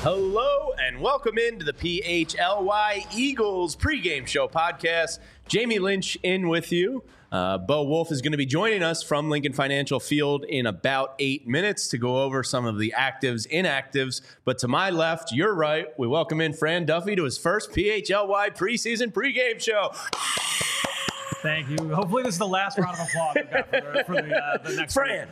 Hello and welcome into the PHLY Eagles pregame show podcast. Jamie Lynch in with you. Bo Wolf is going to be joining us from Lincoln Financial Field in about 8 minutes to go over some of the actives, inactives. But to my left, your right, we welcome in Fran Duffy to his first PHLY preseason pregame show. Thank you. Hopefully this is the last round of applause we've got for the next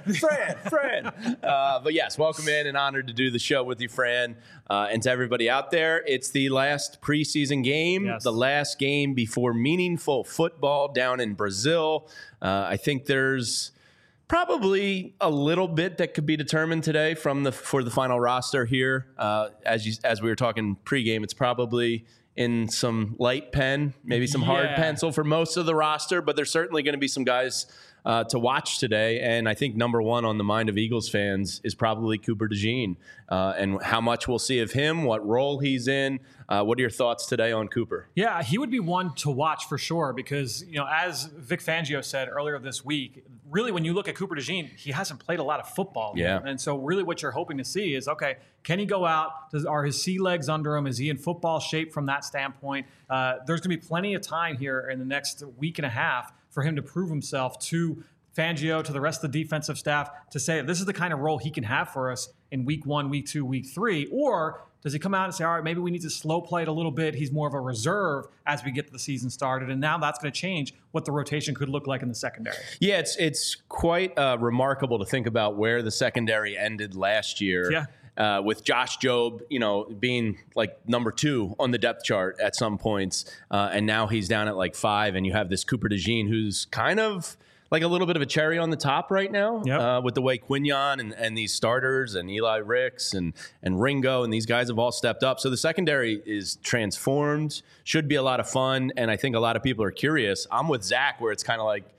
Fran. But yes, welcome in and honored to do the show with you, Fran. And to everybody out there, it's the last preseason game, the last game before meaningful football down in Brazil. I think there's probably a little bit that could be determined today for the final roster here. As we were talking pregame, it's probably in some light pen, maybe some hard pencil for most of the roster, but there's certainly going to be some guys to watch today. And I think number one on the mind of Eagles fans is probably Cooper DeJean, and how much we'll see of him, what role he's in. What are your thoughts today on Cooper? Yeah, he would be one to watch for sure because, as Vic Fangio said earlier this week, really when you look at Cooper DeJean, he hasn't played a lot of football. Yeah. And so really what you're hoping to see is, okay, can he go out? Are his sea legs under him? Is he in football shape from that standpoint? There's going to be plenty of time here in the next week and a half for him to prove himself to Fangio, to the rest of the defensive staff, to say this is the kind of role he can have for us in week 1, week 2, week 3, or does he come out and say, all right, maybe we need to slow play it a little bit. He's more of a reserve as we get the season started. And now that's going to change what the rotation could look like in the secondary. Yeah, it's quite remarkable to think about where the secondary ended last year. Yeah. With Josh Jobe, being like number 2 on the depth chart at some points. And now he's down at like 5. And you have this Cooper DeJean who's kind of like a little bit of a cherry on the top right now, with the way Quinyon and these starters and Eli Ricks and Ringo and these guys have all stepped up. So the secondary is transformed, should be a lot of fun. And I think a lot of people are curious. I'm with Zach where it's kind of like,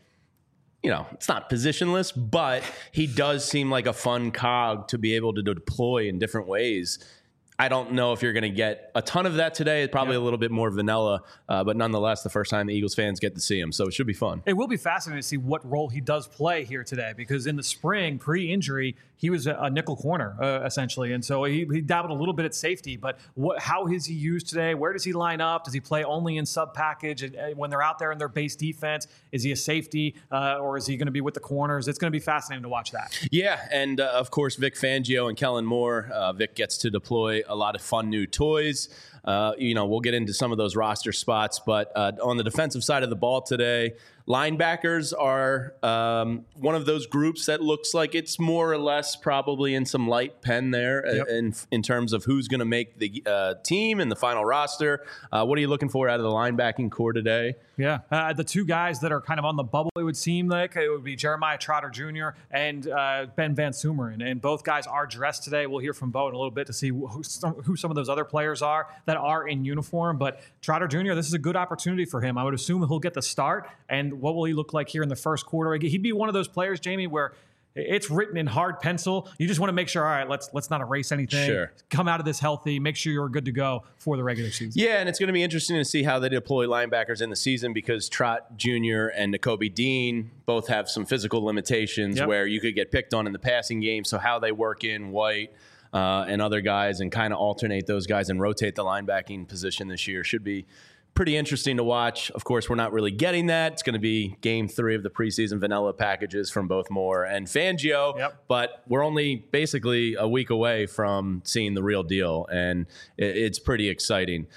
it's not positionless, but he does seem like a fun cog to be able to deploy in different ways. I don't know if you're going to get a ton of that today. It's probably a little bit more vanilla, but nonetheless, the first time the Eagles fans get to see him. So it should be fun. It will be fascinating to see what role he does play here today because in the spring, pre-injury, he was a nickel corner, essentially. And so he dabbled a little bit at safety. But how is he used today? Where does he line up? Does he play only in sub-package when they're out there in their base defense? Is he a safety or is he going to be with the corners? It's going to be fascinating to watch that. Yeah, and of course, Vic Fangio and Kellen Moore. Vic gets to deploy a lot of fun new toys. We'll get into some of those roster spots. But on the defensive side of the ball today, linebackers are one of those groups that looks like it's more or less probably in some light pen there in terms of who's going to make the team and the final roster. What are you looking for out of the linebacking core today? Yeah, the two guys that are kind of on the bubble, it would seem like, it would be Jeremiah Trotter Jr. and Ben Van Sumeren. And both guys are dressed today. We'll hear from Bo in a little bit to see who some of those other players are that are in uniform. But Trotter Jr., this is a good opportunity for him. I would assume he'll get the start. And what will he look like here in the first quarter? He'd be one of those players, Jamie, where it's written in hard pencil. You just want to make sure, all right, let's not erase anything. Sure. Come out of this healthy. Make sure you're good to go for the regular season. Yeah, and it's going to be interesting to see how they deploy linebackers in the season because Trot Jr. and Nakobe Dean both have some physical limitations where you could get picked on in the passing game. So how they work in White and other guys and kind of alternate those guys and rotate the linebacking position this year should be pretty interesting to watch. Of course, we're not really getting that. It's going to be game 3 of the preseason vanilla packages from both Moore and Fangio, but we're only basically a week away from seeing the real deal, and it's pretty exciting.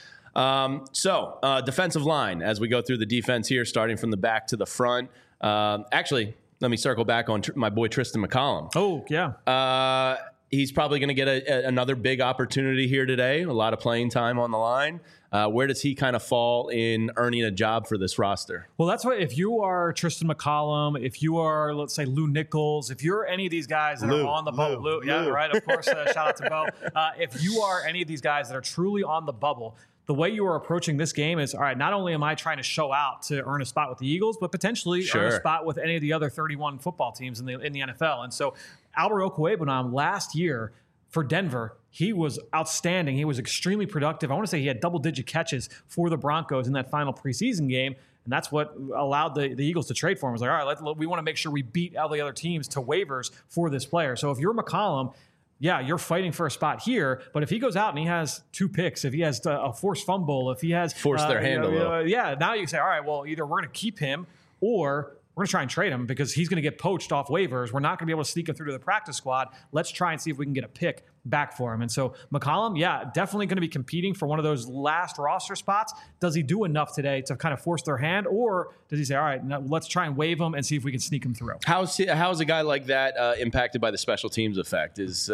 So defensive line, as we go through the defense here, starting from the back to the front. Actually, let me circle back on my boy Tristan McCollum. Oh, yeah. He's probably going to get another big opportunity here today, a lot of playing time on the line. Where does he kind of fall in earning a job for this roster? Well, that's what, if you are Tristan McCollum, if you are, let's say, Lou Nichols, if you're any of these guys that are on the bubble, Lou, yeah, right, of course, shout out to Bo. If you are any of these guys that are truly on the bubble, the way you are approaching this game is, all right, not only am I trying to show out to earn a spot with the Eagles, but potentially earn a spot with any of the other 31 football teams in the NFL. And so Albert Okwuegbunam last year for Denver, he was outstanding. He was extremely productive. I want to say he had double-digit catches for the Broncos in that final preseason game, and that's what allowed the Eagles to trade for him. It was like, all right, we want to make sure we beat all the other teams to waivers for this player. So if you're McCollum, yeah, you're fighting for a spot here. But if he goes out and he has 2 picks, if he has a forced fumble, if he has forced their hand a little, yeah, now you say, all right, well, either we're going to keep him or we're going to try and trade him because he's going to get poached off waivers. We're not going to be able to sneak him through to the practice squad. Let's try and see if we can get a pick back for him. And so McCollum, yeah, definitely going to be competing for one of those last roster spots. Does he do enough today to kind of force their hand, or does he say, all right, now let's try and waive him and see if we can sneak him through? How's a guy like that impacted by the special teams effect?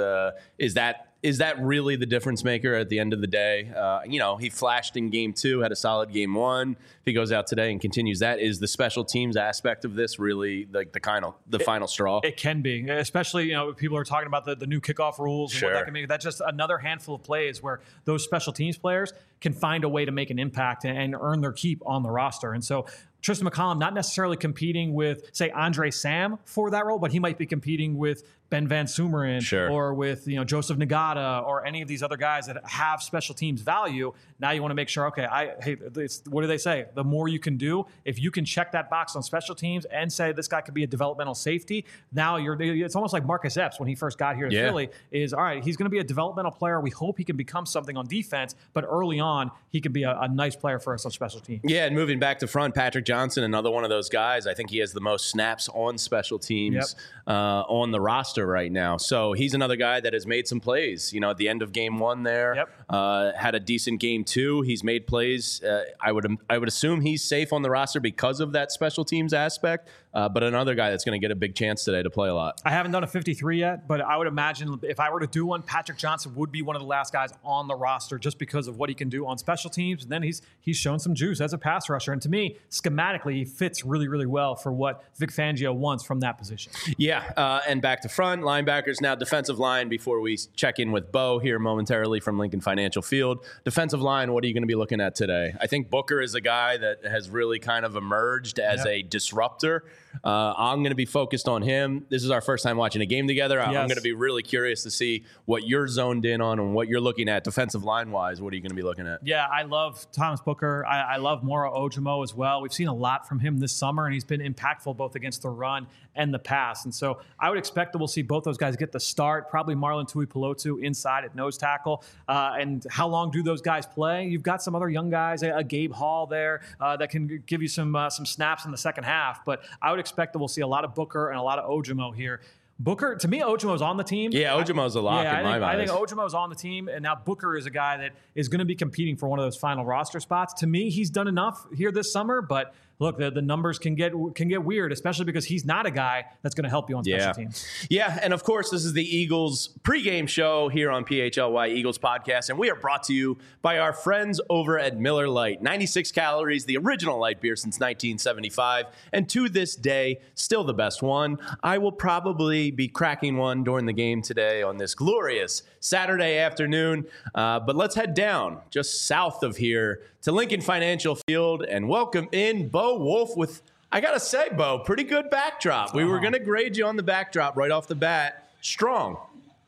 Is that really the difference maker at the end of the day? He flashed in game 2, had a solid game 1. If he goes out today and continues that, is the special teams aspect of this really like the final straw? It can be, especially, people are talking about the new kickoff rules. Sure. And what that can be. That's just another handful of plays where those special teams players can find a way to make an impact and earn their keep on the roster. And so Tristan McCollum not necessarily competing with, say, Andre Sam for that role, but he might be competing with Ben Van Sumeren, sure, or with Joseph Nagata or any of these other guys that have special teams value. Now you want to make sure, okay, what do they say? The more you can do, if you can check that box on special teams and say this guy could be a developmental safety, now it's almost like Marcus Epps when he first got here to Philly is, all right, he's going to be a developmental player. We hope he can become something on defense, but early on, he can be a nice player for us on special teams. Yeah, and moving back to front, Patrick Johnson, another one of those guys. I think he has the most snaps on special teams on the roster right now. So he's another guy that has made some plays. At the end of game 1 there, had a decent game 2. He's made plays. I would assume he's safe on the roster because of that special teams aspect. But another guy that's going to get a big chance today to play a lot. I haven't done a 53 yet, but I would imagine if I were to do one, Patrick Johnson would be one of the last guys on the roster just because of what he can do on special teams. And then he's shown some juice as a pass rusher. And to me, schematically, he fits really, really well for what Vic Fangio wants from that position. Yeah, and back to front, linebackers, now defensive line before we check in with Bo here momentarily from Lincoln Financial Field. Defensive line, what are you going to be looking at today? I think Booker is a guy that has really kind of emerged as a disruptor. I'm going to be focused on him. This is our first time watching a game together. I'm going to be really curious to see what you're zoned in on and what you're looking at defensive line-wise. What are you going to be looking at? Yeah, I love Thomas Booker. I love Moro Ojomo as well. We've seen a lot from him this summer, and he's been impactful both against the run and the pass. And so I would expect that we'll see both those guys get the start, probably Marlon Tuipulotu inside at nose tackle. And how long do those guys play? You've got some other young guys, a Gabe Hall there that can give you some snaps in the second half. But I would expect that we'll see a lot of Booker and a lot of Ojomo here. Booker, to me, Ojomo's on the team. Yeah, Ojomo's a lock in my mind. I think Ojomo's on the team, and now Booker is a guy that is going to be competing for one of those final roster spots. To me, he's done enough here this summer, but look, the numbers can get weird, especially because he's not a guy that's going to help you on special teams. Yeah, and of course, this is the Eagles pregame show here on PHLY Eagles Podcast, and we are brought to you by our friends over at Miller Lite. 96 calories, the original light beer since 1975, and to this day, still the best one. I will probably be cracking one during the game today on this glorious Saturday afternoon, but let's head down just south of here to Lincoln Financial Field and welcome in Bo Wolf with, I got to say, Bo, pretty good backdrop. We were going to grade you on the backdrop right off the bat. Strong.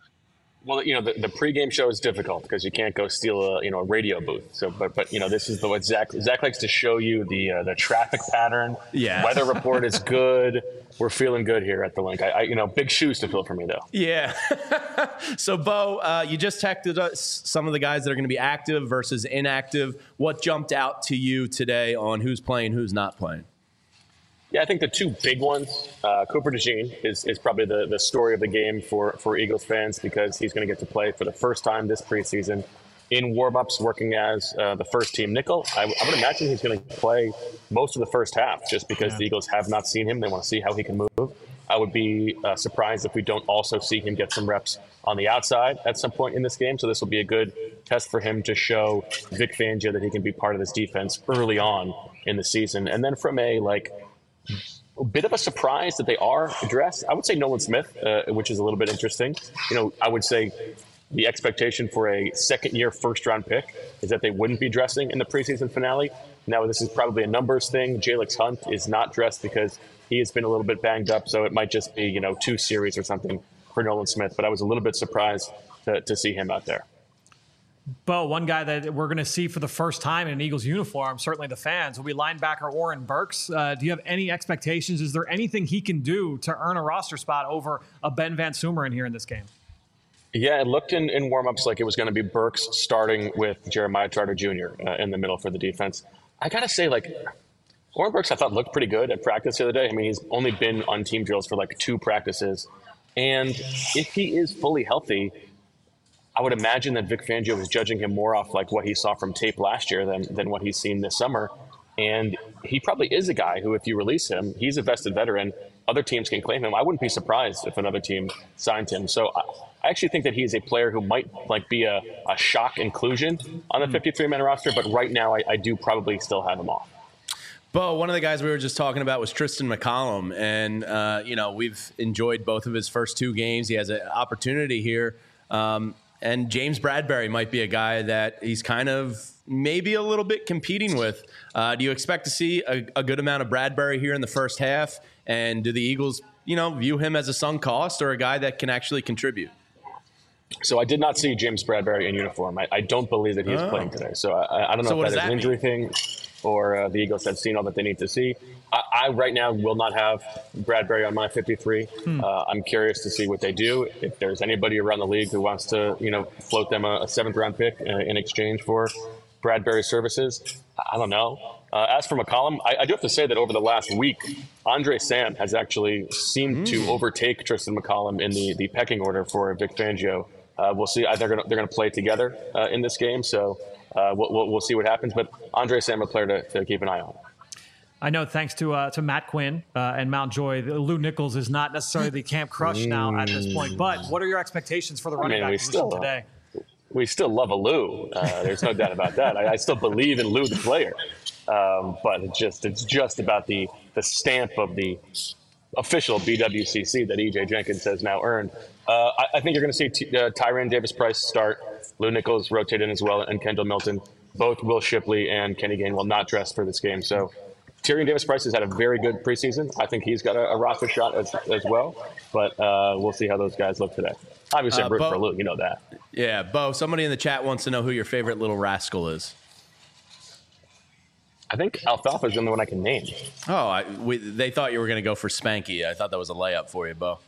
Well, the pregame show is difficult because you can't go steal a radio booth. So, but this is what Zach likes to show you the traffic pattern. Yeah. Weather report is good. We're feeling good here at the link. Big shoes to fill for me though. Yeah. So, Bo, you just texted us some of the guys that are going to be active versus inactive. What jumped out to you today on who's playing, who's not playing? Yeah, I think the two big ones, Cooper DeJean is probably the story of the game for Eagles fans because he's going to get to play for the first time this preseason in warm-ups working as the first-team nickel. I would imagine he's going to play most of the first half just because the Eagles have not seen him. They want to see how he can move. I would be surprised if we don't also see him get some reps on the outside at some point in this game. So this will be a good test for him to show Vic Fangio that he can be part of this defense early on in the season. And then from a bit of a surprise that they are dressed, I would say Nolan Smith, which is a little bit interesting. I would say the expectation for a second-year first-round pick is that they wouldn't be dressing in the preseason finale. Now, this is probably a numbers thing. Jalix Hunt is not dressed because he has been a little bit banged up, so it might just be, 2 series or something for Nolan Smith. But I was a little bit surprised to see him out there. Bo, one guy that we're going to see for the first time in an Eagles uniform, certainly the fans, will be linebacker Oren Burks. Do you have any expectations? Is there anything he can do to earn a roster spot over a Ben Van Sumeren here in this game? Yeah, it looked in warmups like it was going to be Burks starting with Jeremiah Trotter Jr. In the middle for the defense. I got to say, like, Oren Burks, I thought looked pretty good at practice the other day. I mean, he's only been on team drills for like 2 practices. And if he is fully healthy, I would imagine that Vic Fangio is judging him more off like what he saw from tape last year than what he's seen this summer. And he probably is a guy who, if you release him, he's a vested veteran. Other teams can claim him. I wouldn't be surprised if another team signed him. So I actually think that he's a player who might like be a shock inclusion on the 53-man roster. But right now, I do probably still have him off. Bo, one of the guys we were just talking about was Tristan McCollum. And, we've enjoyed both of his first 2 games. He has an opportunity here. And James Bradbury might be a guy that he's kind of maybe a little bit competing with. Do you expect to see a good amount of Bradbury here in the first half? And do the Eagles, view him as a sunk cost or a guy that can actually contribute? So I did not see James Bradbury in uniform. I don't believe that he's playing today. So I don't know if that is an injury thing or the Eagles have seen all that they need to see. I right now will not have Bradbury on my 53. I'm curious to see what they do. If there's anybody around the league who wants to, float them a 7th-round pick in exchange for Bradbury's services, I don't know. As for McCollum, I do have to say that over the last week, Andre Sam has actually seemed to overtake Tristan McCollum in the pecking order for Vic Fangio. We'll see. They're going to play together in this game, so we'll see what happens. But Andre Sam, a player to keep an eye on. I know, thanks to Matt Quinn and Mount Joy, Lou Nichols is not necessarily the camp crush now at this point. But what are your expectations for the running back position today? We still love a Lou. There's no doubt about that. I still believe in Lou, the player. But it's just about the stamp of the official BWCC that EJ Jenkins has now earned. I think you're going to see Tyrann Davis-Price start. Lou Nichols rotate in as well, and Kendall Milton. Both Will Shipley and Kenny Gain will not dress for this game. So Tyrann Davis-Price has had a very good preseason. I think he's got a roster shot as well. But we'll see how those guys look today. Obviously, I'm rooting for Lou. You know that. Yeah, Bo, somebody in the chat wants to know who your favorite little rascal is. I think Alfalfa is the only one I can name. Oh, they thought you were going to go for Spanky. I thought that was a layup for you, Bo.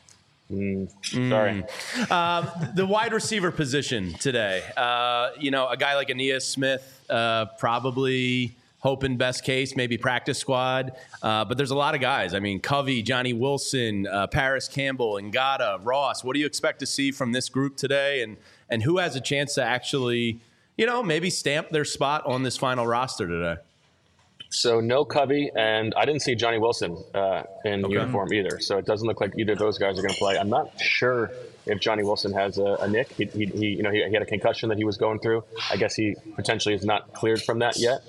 Sorry. The wide receiver position today. A guy like Aeneas Smith, probably hoping best case, maybe practice squad. But there's a lot of guys. I mean, Covey, Johnny Wilson, Paris Campbell, Ngata, Ross. What do you expect to see from this group today? And who has a chance to actually, maybe stamp their spot on this final roster today? So no Covey, and I didn't see Johnny Wilson in uniform either. So it doesn't look like either of those guys are going to play. I'm not sure if Johnny Wilson has a nick. He had a concussion that he was going through. I guess he potentially is not cleared from that yet.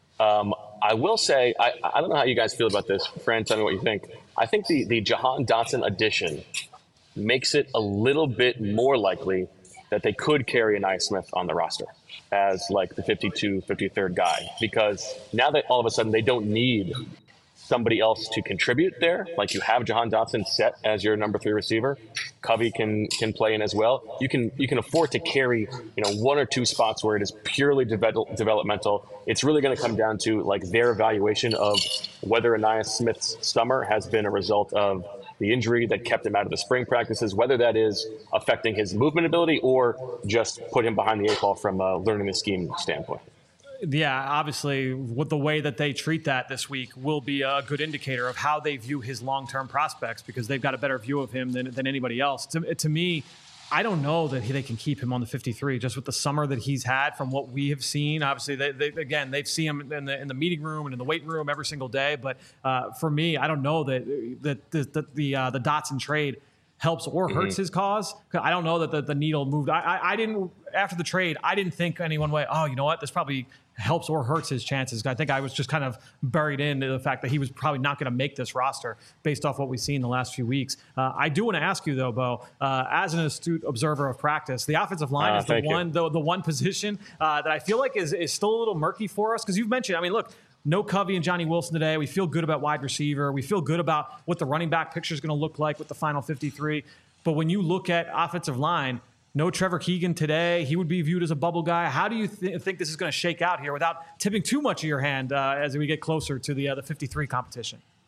I will say, I don't know how you guys feel about this. Fran, tell me what you think. I think the Jahan Dotson addition makes it a little bit more likely that they could carry Aeneas Smith on the roster as like the 53rd guy, because now that all of a sudden they don't need somebody else to contribute there. Like you have Jahan Dotson set as your number 3 receiver. Covey can play in as well. You can afford to carry 1 or 2 spots where it is purely developmental. It's really going to come down to like their evaluation of whether Aeneas Smith's summer has been a result of the injury that kept him out of the spring practices, whether that is affecting his movement ability or just put him behind the 8 ball from a learning the scheme standpoint. Yeah, obviously, with the way that they treat that this week will be a good indicator of how they view his long-term prospects, because they've got a better view of him than anybody else. To me, I don't know that they can keep him on the 53 just with the summer that he's had from what we have seen. Obviously, they've seen him in the meeting room and in the weight room every single day. But for me, I don't know that the Dotson trade helps or hurts his cause. I don't know that the needle moved. I didn't, after the trade, I didn't think any one way, oh, you know what, this probably helps or hurts his chances. I think I was just kind of buried into the fact that he was probably not going to make this roster based off what we've seen the last few weeks. I do want to ask you, though, Bo, as an astute observer of practice, the offensive line is the one position that I feel like is still a little murky for us, because you've mentioned, I mean, look, no Covey and Johnny Wilson today. We feel good about wide receiver. We feel good about what the running back picture is going to look like with the final 53. But when you look at offensive line, no Trevor Keegan today. He would be viewed as a bubble guy. How do you think this is going to shake out here without tipping too much of your hand as we get closer to the 53 competition?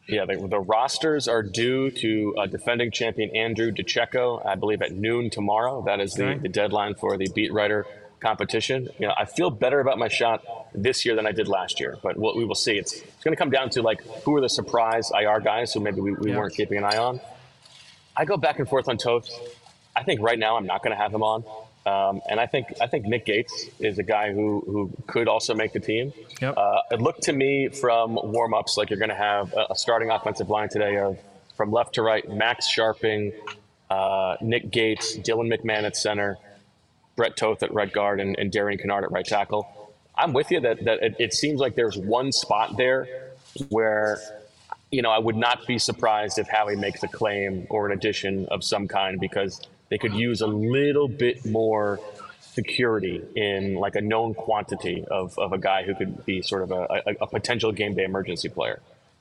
Yeah, the rosters are due to defending champion Andrew DeCecco, I believe, at noon tomorrow. That is the deadline for the beat writer competition. I feel better about my shot this year than I did last year, but we will see. It's going to come down to who are the surprise IR guys who maybe we weren't keeping an eye on. I go back and forth on Toth. I think right now I'm not going to have him on. And I think Nick Gates is a guy who could also make the team. Yep. It looked to me from warm-ups like you're going to have a starting offensive line today of from left to right, Max Sharping, Nick Gates, Dylan McMahon at center, Brett Toth at right guard, and Darian Kennard at right tackle. I'm with you that it seems like there's one spot there where I would not be surprised if Howie makes a claim or an addition of some kind, because they could use a little bit more security in a known quantity of a guy who could be sort of a potential game day emergency player.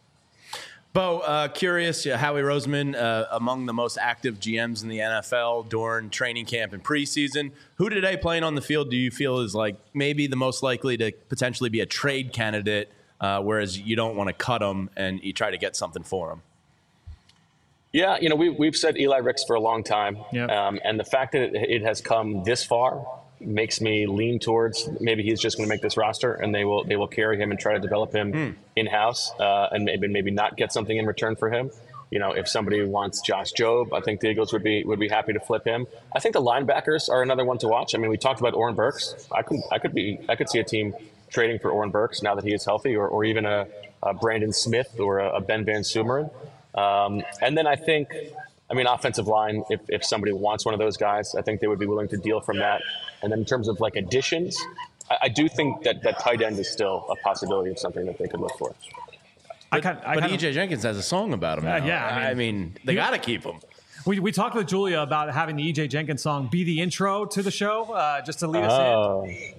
Bo, curious, Howie Roseman, among the most active GMs in the NFL during training camp and preseason. Who today playing on the field do you feel is maybe the most likely to potentially be a trade candidate, whereas you don't want to cut them and you try to get something for them? Yeah, we've said Eli Ricks for a long time, yep. And the fact that it has come this far makes me lean towards maybe he's just going to make this roster, and they will carry him and try to develop him in house, and maybe not get something in return for him. If somebody wants Josh Jobe, I think the Eagles would be happy to flip him. I think the linebackers are another one to watch. I mean, we talked about Oren Burks. I could see a team trading for Oren Burks now that he is healthy, or even a Brandon Smith or a Ben Van Sumeren. And then I think, offensive line, if somebody wants one of those guys, I think they would be willing to deal from that. And then in terms of additions, I do think that tight end is still a possibility of something that they could look for. But E.J. Jenkins has a song about him now. Yeah, they got to keep him. We talked with Julia about having the E.J. Jenkins song be the intro to the show, just to lead us in.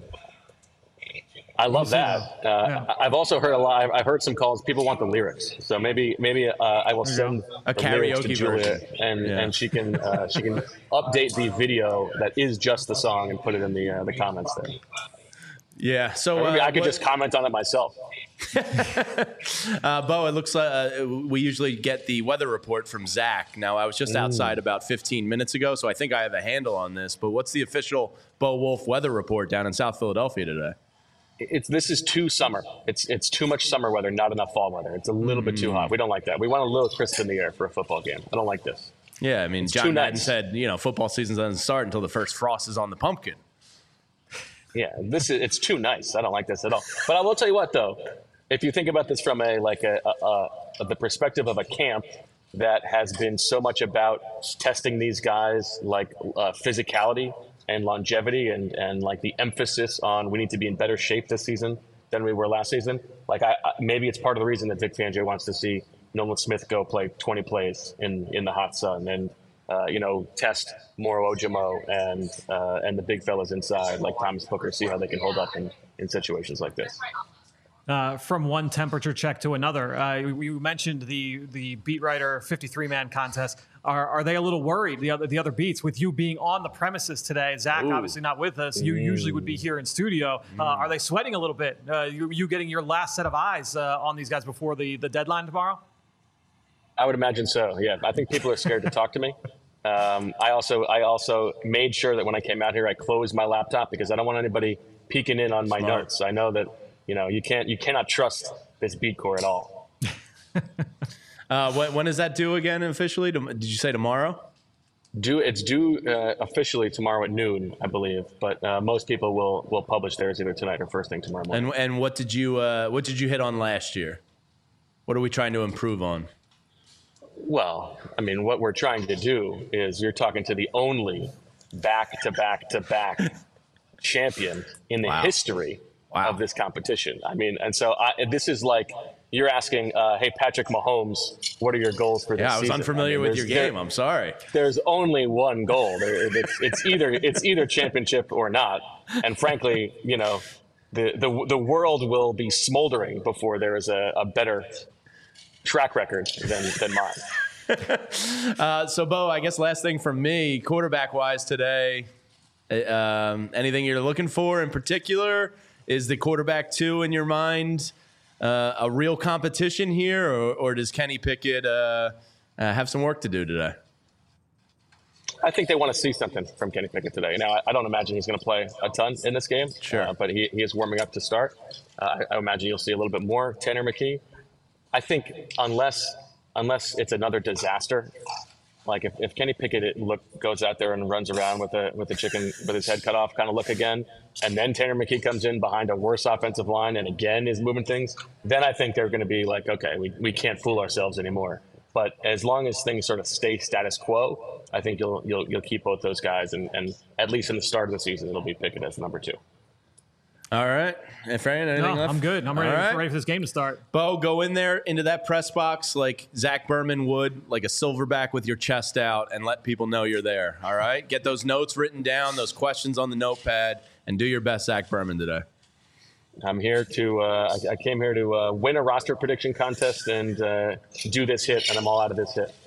I love that. I've also heard a lot. I've heard some calls. People want the lyrics, so maybe I will send a karaoke to Julia, version, and she can update the video that is just the song and put it in the comments there. Yeah, so maybe I could just comment on it myself. Bo, it looks like we usually get the weather report from Zach. Now, I was just outside about 15 minutes ago, so I think I have a handle on this. But what's the official Bo Wolf weather report down in South Philadelphia today? This is too summer. It's too much summer weather, not enough fall weather. It's a little bit too hot. We don't like that. We want a little crisp in the air for a football game. I don't like this. Yeah, it's John Madden said, football season doesn't start until the first frost is on the pumpkin. Yeah, it's too nice. I don't like this at all. But I will tell you what, though, if you think about this from the perspective of a camp that has been so much about testing these guys, physicality and longevity and the emphasis on we need to be in better shape this season than we were last season. Maybe it's part of the reason that Vic Fangio wants to see Nolan Smith go play 20 plays in the hot sun and test Moro Ojomo and the big fellas inside like Thomas Booker, see how they can hold up in situations like this. From one temperature check to another, we mentioned the beat writer 53-man contest. Are they a little worried, the other beats, with you being on the premises today? Zach, obviously not with us. You usually would be here in studio. Are they sweating a little bit? You getting your last set of eyes on these guys before the deadline tomorrow? I would imagine so. Yeah, I think people are scared to talk to me. I also made sure that when I came out here, I closed my laptop because I don't want anybody peeking in on my notes. I know that you cannot trust this beat core at all. When is that due again officially? Did you say tomorrow? It's due officially tomorrow at noon, I believe. But most people will publish theirs either tonight or first thing tomorrow morning. And what did you hit on last year? What are we trying to improve on? Well, what we're trying to do is you're talking to the only back-to-back champion in the history of this competition. And so this is like you're asking, hey, Patrick Mahomes, what are your goals for this season? Yeah, I was unfamiliar with your game. I'm sorry. There's only one goal. It's either championship or not. And frankly, the world will be smoldering before there is a better track record than mine. So, Bo, I guess last thing from me, quarterback-wise today, anything you're looking for in particular? Is the quarterback 2 in your mind a real competition here, or does Kenny Pickett have some work to do today? I think they want to see something from Kenny Pickett today. Now, I don't imagine he's going to play a ton in this game, but he is warming up to start. I imagine you'll see a little bit more Tanner McKee. I think unless it's another disaster, like if Kenny Pickett goes out there and runs around with a chicken with his head cut off kind of look again, and then Tanner McKee comes in behind a worse offensive line and again is moving things, then I think they're going to be like, okay, we can't fool ourselves anymore. But as long as things sort of stay status quo, I think you'll keep both those guys, and at least in the start of the season, it'll be Pickett as number 2. All right. And Fran, anything left? I'm good. I'm ready for this game to start. Bo, go in there into that press box like Zach Berman would, like a silverback with your chest out, and let people know you're there. All right? Get those notes written down, those questions on the notepad, and do your best Zach Berman today. I'm here to I came here to win a roster prediction contest and do this hit, and I'm all out of this hit.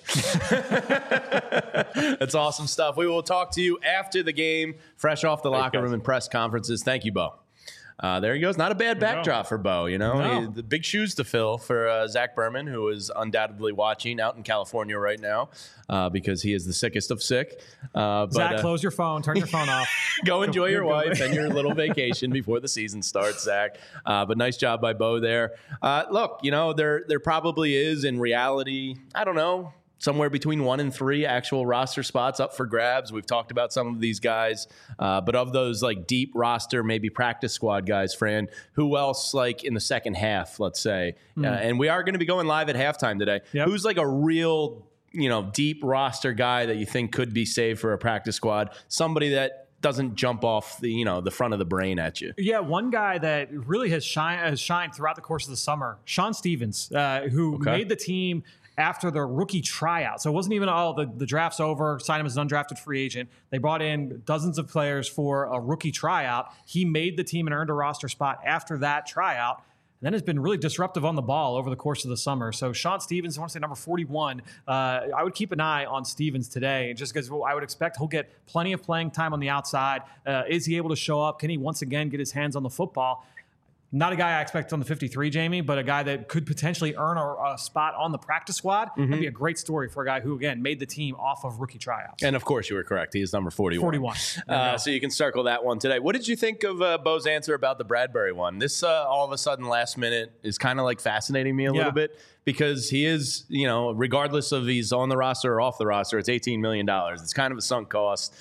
That's awesome stuff. We will talk to you after the game, fresh off the locker room and press conferences. Thank you, Bo. There he goes. Not a bad backdrop for Bo. The big shoes to fill for Zach Berman, who is undoubtedly watching out in California right now because he is the sickest of sick. Zach, close your phone. Turn your phone off. Go enjoy your wife and your little vacation before the season starts, Zach. But nice job by Bo there. Look, there probably is in reality, I don't know, somewhere between 1 and 3 actual roster spots up for grabs. We've talked about some of these guys, but of those like deep roster, maybe practice squad guys, Fran, who else like in the second half, let's say, and we are going to be going live at halftime today. Yep. Who's like a real, deep roster guy that you think could be saved for a practice squad? Somebody that doesn't jump off the front of the brain at you. Yeah, one guy that really has shined throughout the course of the summer, Sean Stevens, who made the team after the rookie tryout. So it wasn't even all the draft's over, signed him as an undrafted free agent. They brought in dozens of players for a rookie tryout. He made the team and earned a roster spot after that tryout. And then has been really disruptive on the ball over the course of the summer. So Sean Stevens, I want to say number 41. I would keep an eye on Stevens today, just because I would expect he'll get plenty of playing time on the outside. Is he able to show up? Can he once again get his hands on the football? Not a guy I expect on the 53, Jamie, but a guy that could potentially earn a spot on the practice squad. That'd be a great story for a guy who, again, made the team off of rookie tryouts. And, of course, you were correct. He is number 41. So you can circle that one today. What did you think of Bo's answer about the Bradbury one? This, all of a sudden, last minute is kind of like fascinating me a little bit because he is, regardless of he's on the roster or off the roster, it's $18 million. It's kind of a sunk cost.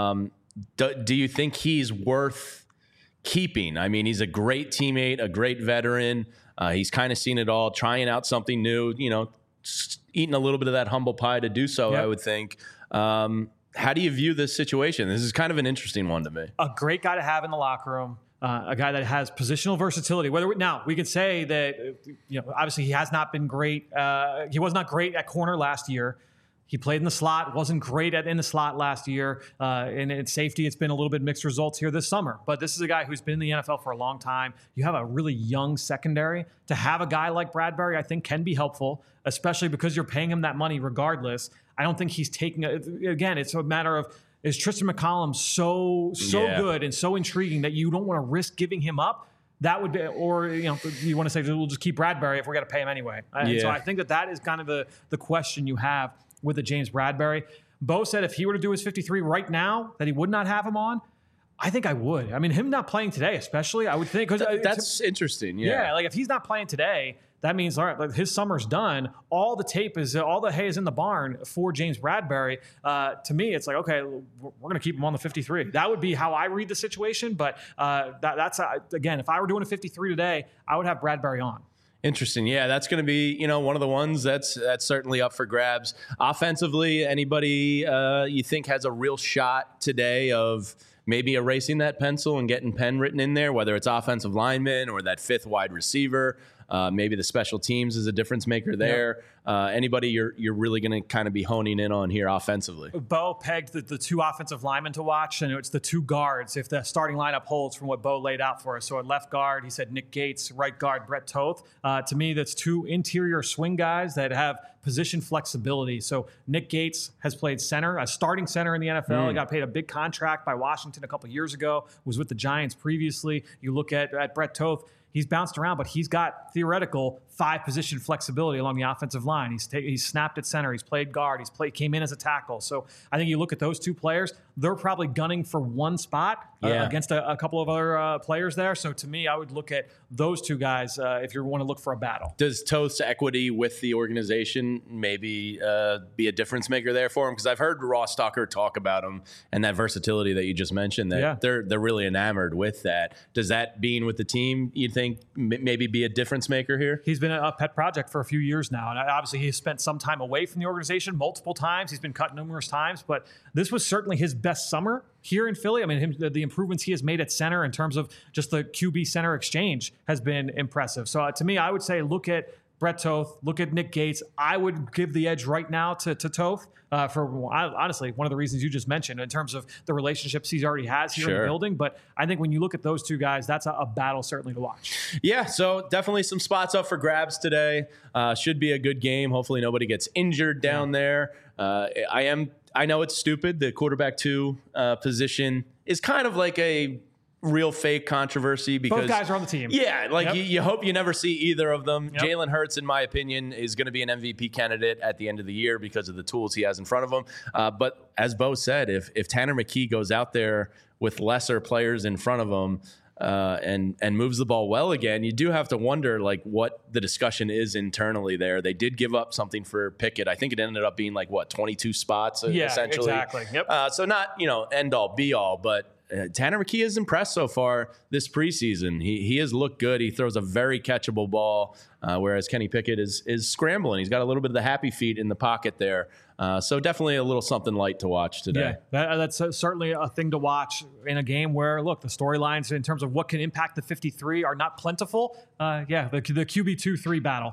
Do you think he's worth keeping? I mean, he's a great teammate, a great veteran. He's kind of seen it all, trying out something new, eating a little bit of that humble pie to do so, I would think. How do you view this situation? This is kind of an interesting one to me. A great guy to have in the locker room. A guy that has positional versatility. Now, we can say that, obviously he has not been great. He was not great at corner last year. He played in the slot, wasn't great in the slot last year. And at safety, it's been a little bit mixed results here this summer. But this is a guy who's been in the NFL for a long time. You have a really young secondary. To have a guy like Bradbury, I think, can be helpful, especially because you're paying him that money regardless. I don't think he's taking again, it's a matter of, is Tristan McCollum so good and so intriguing that you don't want to risk giving him up? That would be, or you want to say, we'll just keep Bradbury if we're going to pay him anyway. So I think that is kind of the question you have with the James Bradbury. Bo said if he were to do his 53 right now, that he would not have him on. I think I would. I mean, him not playing today, especially, I would think. That's interesting. Yeah. Like if he's not playing today, that means, all right, like his summer's done. All the hay is in the barn for James Bradbury. To me, it's like, okay, we're going to keep him on the 53. That would be how I read the situation. But that's again, if I were doing a 53 today, I would have Bradbury on. Interesting. Yeah, that's going to be, one of the ones that's certainly up for grabs. Offensively, anybody you think has a real shot today of maybe erasing that pencil and getting Penn written in there, whether it's offensive lineman or that fifth wide receiver? Maybe the special teams is a difference maker there. Anybody you're really going to kind of be honing in on here offensively? Bo pegged the two offensive linemen to watch, and it's the two guards if the starting lineup holds from what Bo laid out for us. So at left guard, he said Nick Gates, right guard, Brett Toth. To me, that's two interior swing guys that have position flexibility. So Nick Gates has played center, a starting center in the NFL. He got paid a big contract by Washington a couple years ago, was with the Giants previously. You look at Brett Toth, he's bounced around, but he's got theoretical 5-position flexibility along the offensive line. He's snapped at center. He's played guard. Came in as a tackle. So I think you look at those two players, they're probably gunning for one spot against a couple of other players there. So to me, I would look at those two guys if you want to look for a battle. Does Toth's equity with the organization maybe be a difference maker there for him? Because I've heard Ross Tucker talk about him and that versatility that you just mentioned, that they're really enamored with that. Does that being with the team, you think, maybe be a difference maker here? He's been a pet project for a few years now. And obviously he's spent some time away from the organization multiple times. He's been cut numerous times, but this was certainly his best summer here in Philly. I mean, the improvements he has made at center in terms of just the QB center exchange has been impressive. So to me, I would say look at Brett Toth, look at Nick Gates. I would give the edge right now to Toth for honestly one of the reasons you just mentioned in terms of the relationships he already has here in the building. But I think when you look at those two guys, that's a battle certainly to watch. Yeah, so definitely some spots up for grabs today. Should be a good game. Hopefully nobody gets injured down there. I know it's stupid. The quarterback 2 position is kind of like a real fake controversy because both guys are on the team. Yeah, like you hope you never see either of them. Yep. Jalen Hurts, in my opinion, is going to be an MVP candidate at the end of the year because of the tools he has in front of him. But as Bo said, if Tanner McKee goes out there with lesser players in front of him and moves the ball well again, you do have to wonder like what the discussion is internally there. They did give up something for Pickett. I think it ended up being like 22 spots essentially. Exactly. Yep. So not end all be all, but Tanner McKee has impressed so far this preseason. He has looked good. He throws a very catchable ball, whereas Kenny Pickett is scrambling. He's got a little bit of the happy feet in the pocket there. So definitely a little something light to watch today. Yeah, that's certainly a thing to watch in a game where, look, the storylines in terms of what can impact the 53 are not plentiful. The QB 2-3 battle.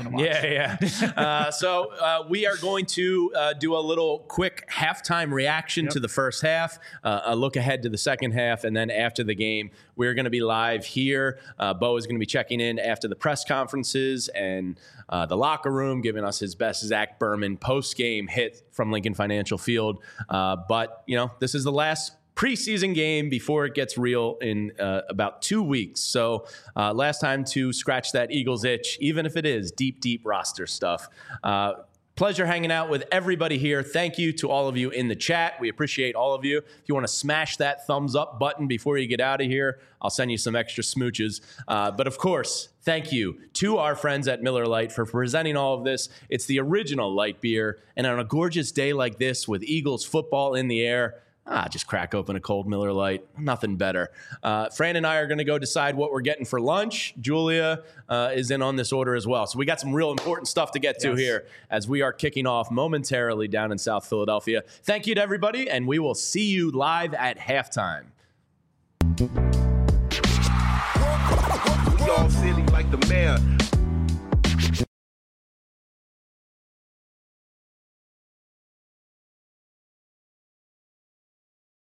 So we are going to do a little quick halftime reaction to the first half, a look ahead to the second half, and then after the game, we're going to be live here. Bo is going to be checking in after the press conferences and the locker room, giving us his best Zach Berman post-game hit from Lincoln Financial Field. But this is the last preseason game before it gets real in about 2 weeks. So last time to scratch that Eagles itch, even if it is deep roster stuff. Pleasure hanging out with everybody here. Thank you to all of you in the chat. We appreciate all of you. If you want to smash that thumbs up button before you get out of here, I'll send you some extra smooches. But of course, thank you to our friends at Miller Lite for presenting all of this. It's the original light beer. And on a gorgeous day like this with Eagles football in the air, just crack open a cold Miller Lite. Nothing better. Fran and I are going to go decide what we're getting for lunch. Julia is in on this order as well. So we got some real important stuff to get to here as we are kicking off momentarily down in South Philadelphia. Thank you to everybody, and we will see you live at halftime.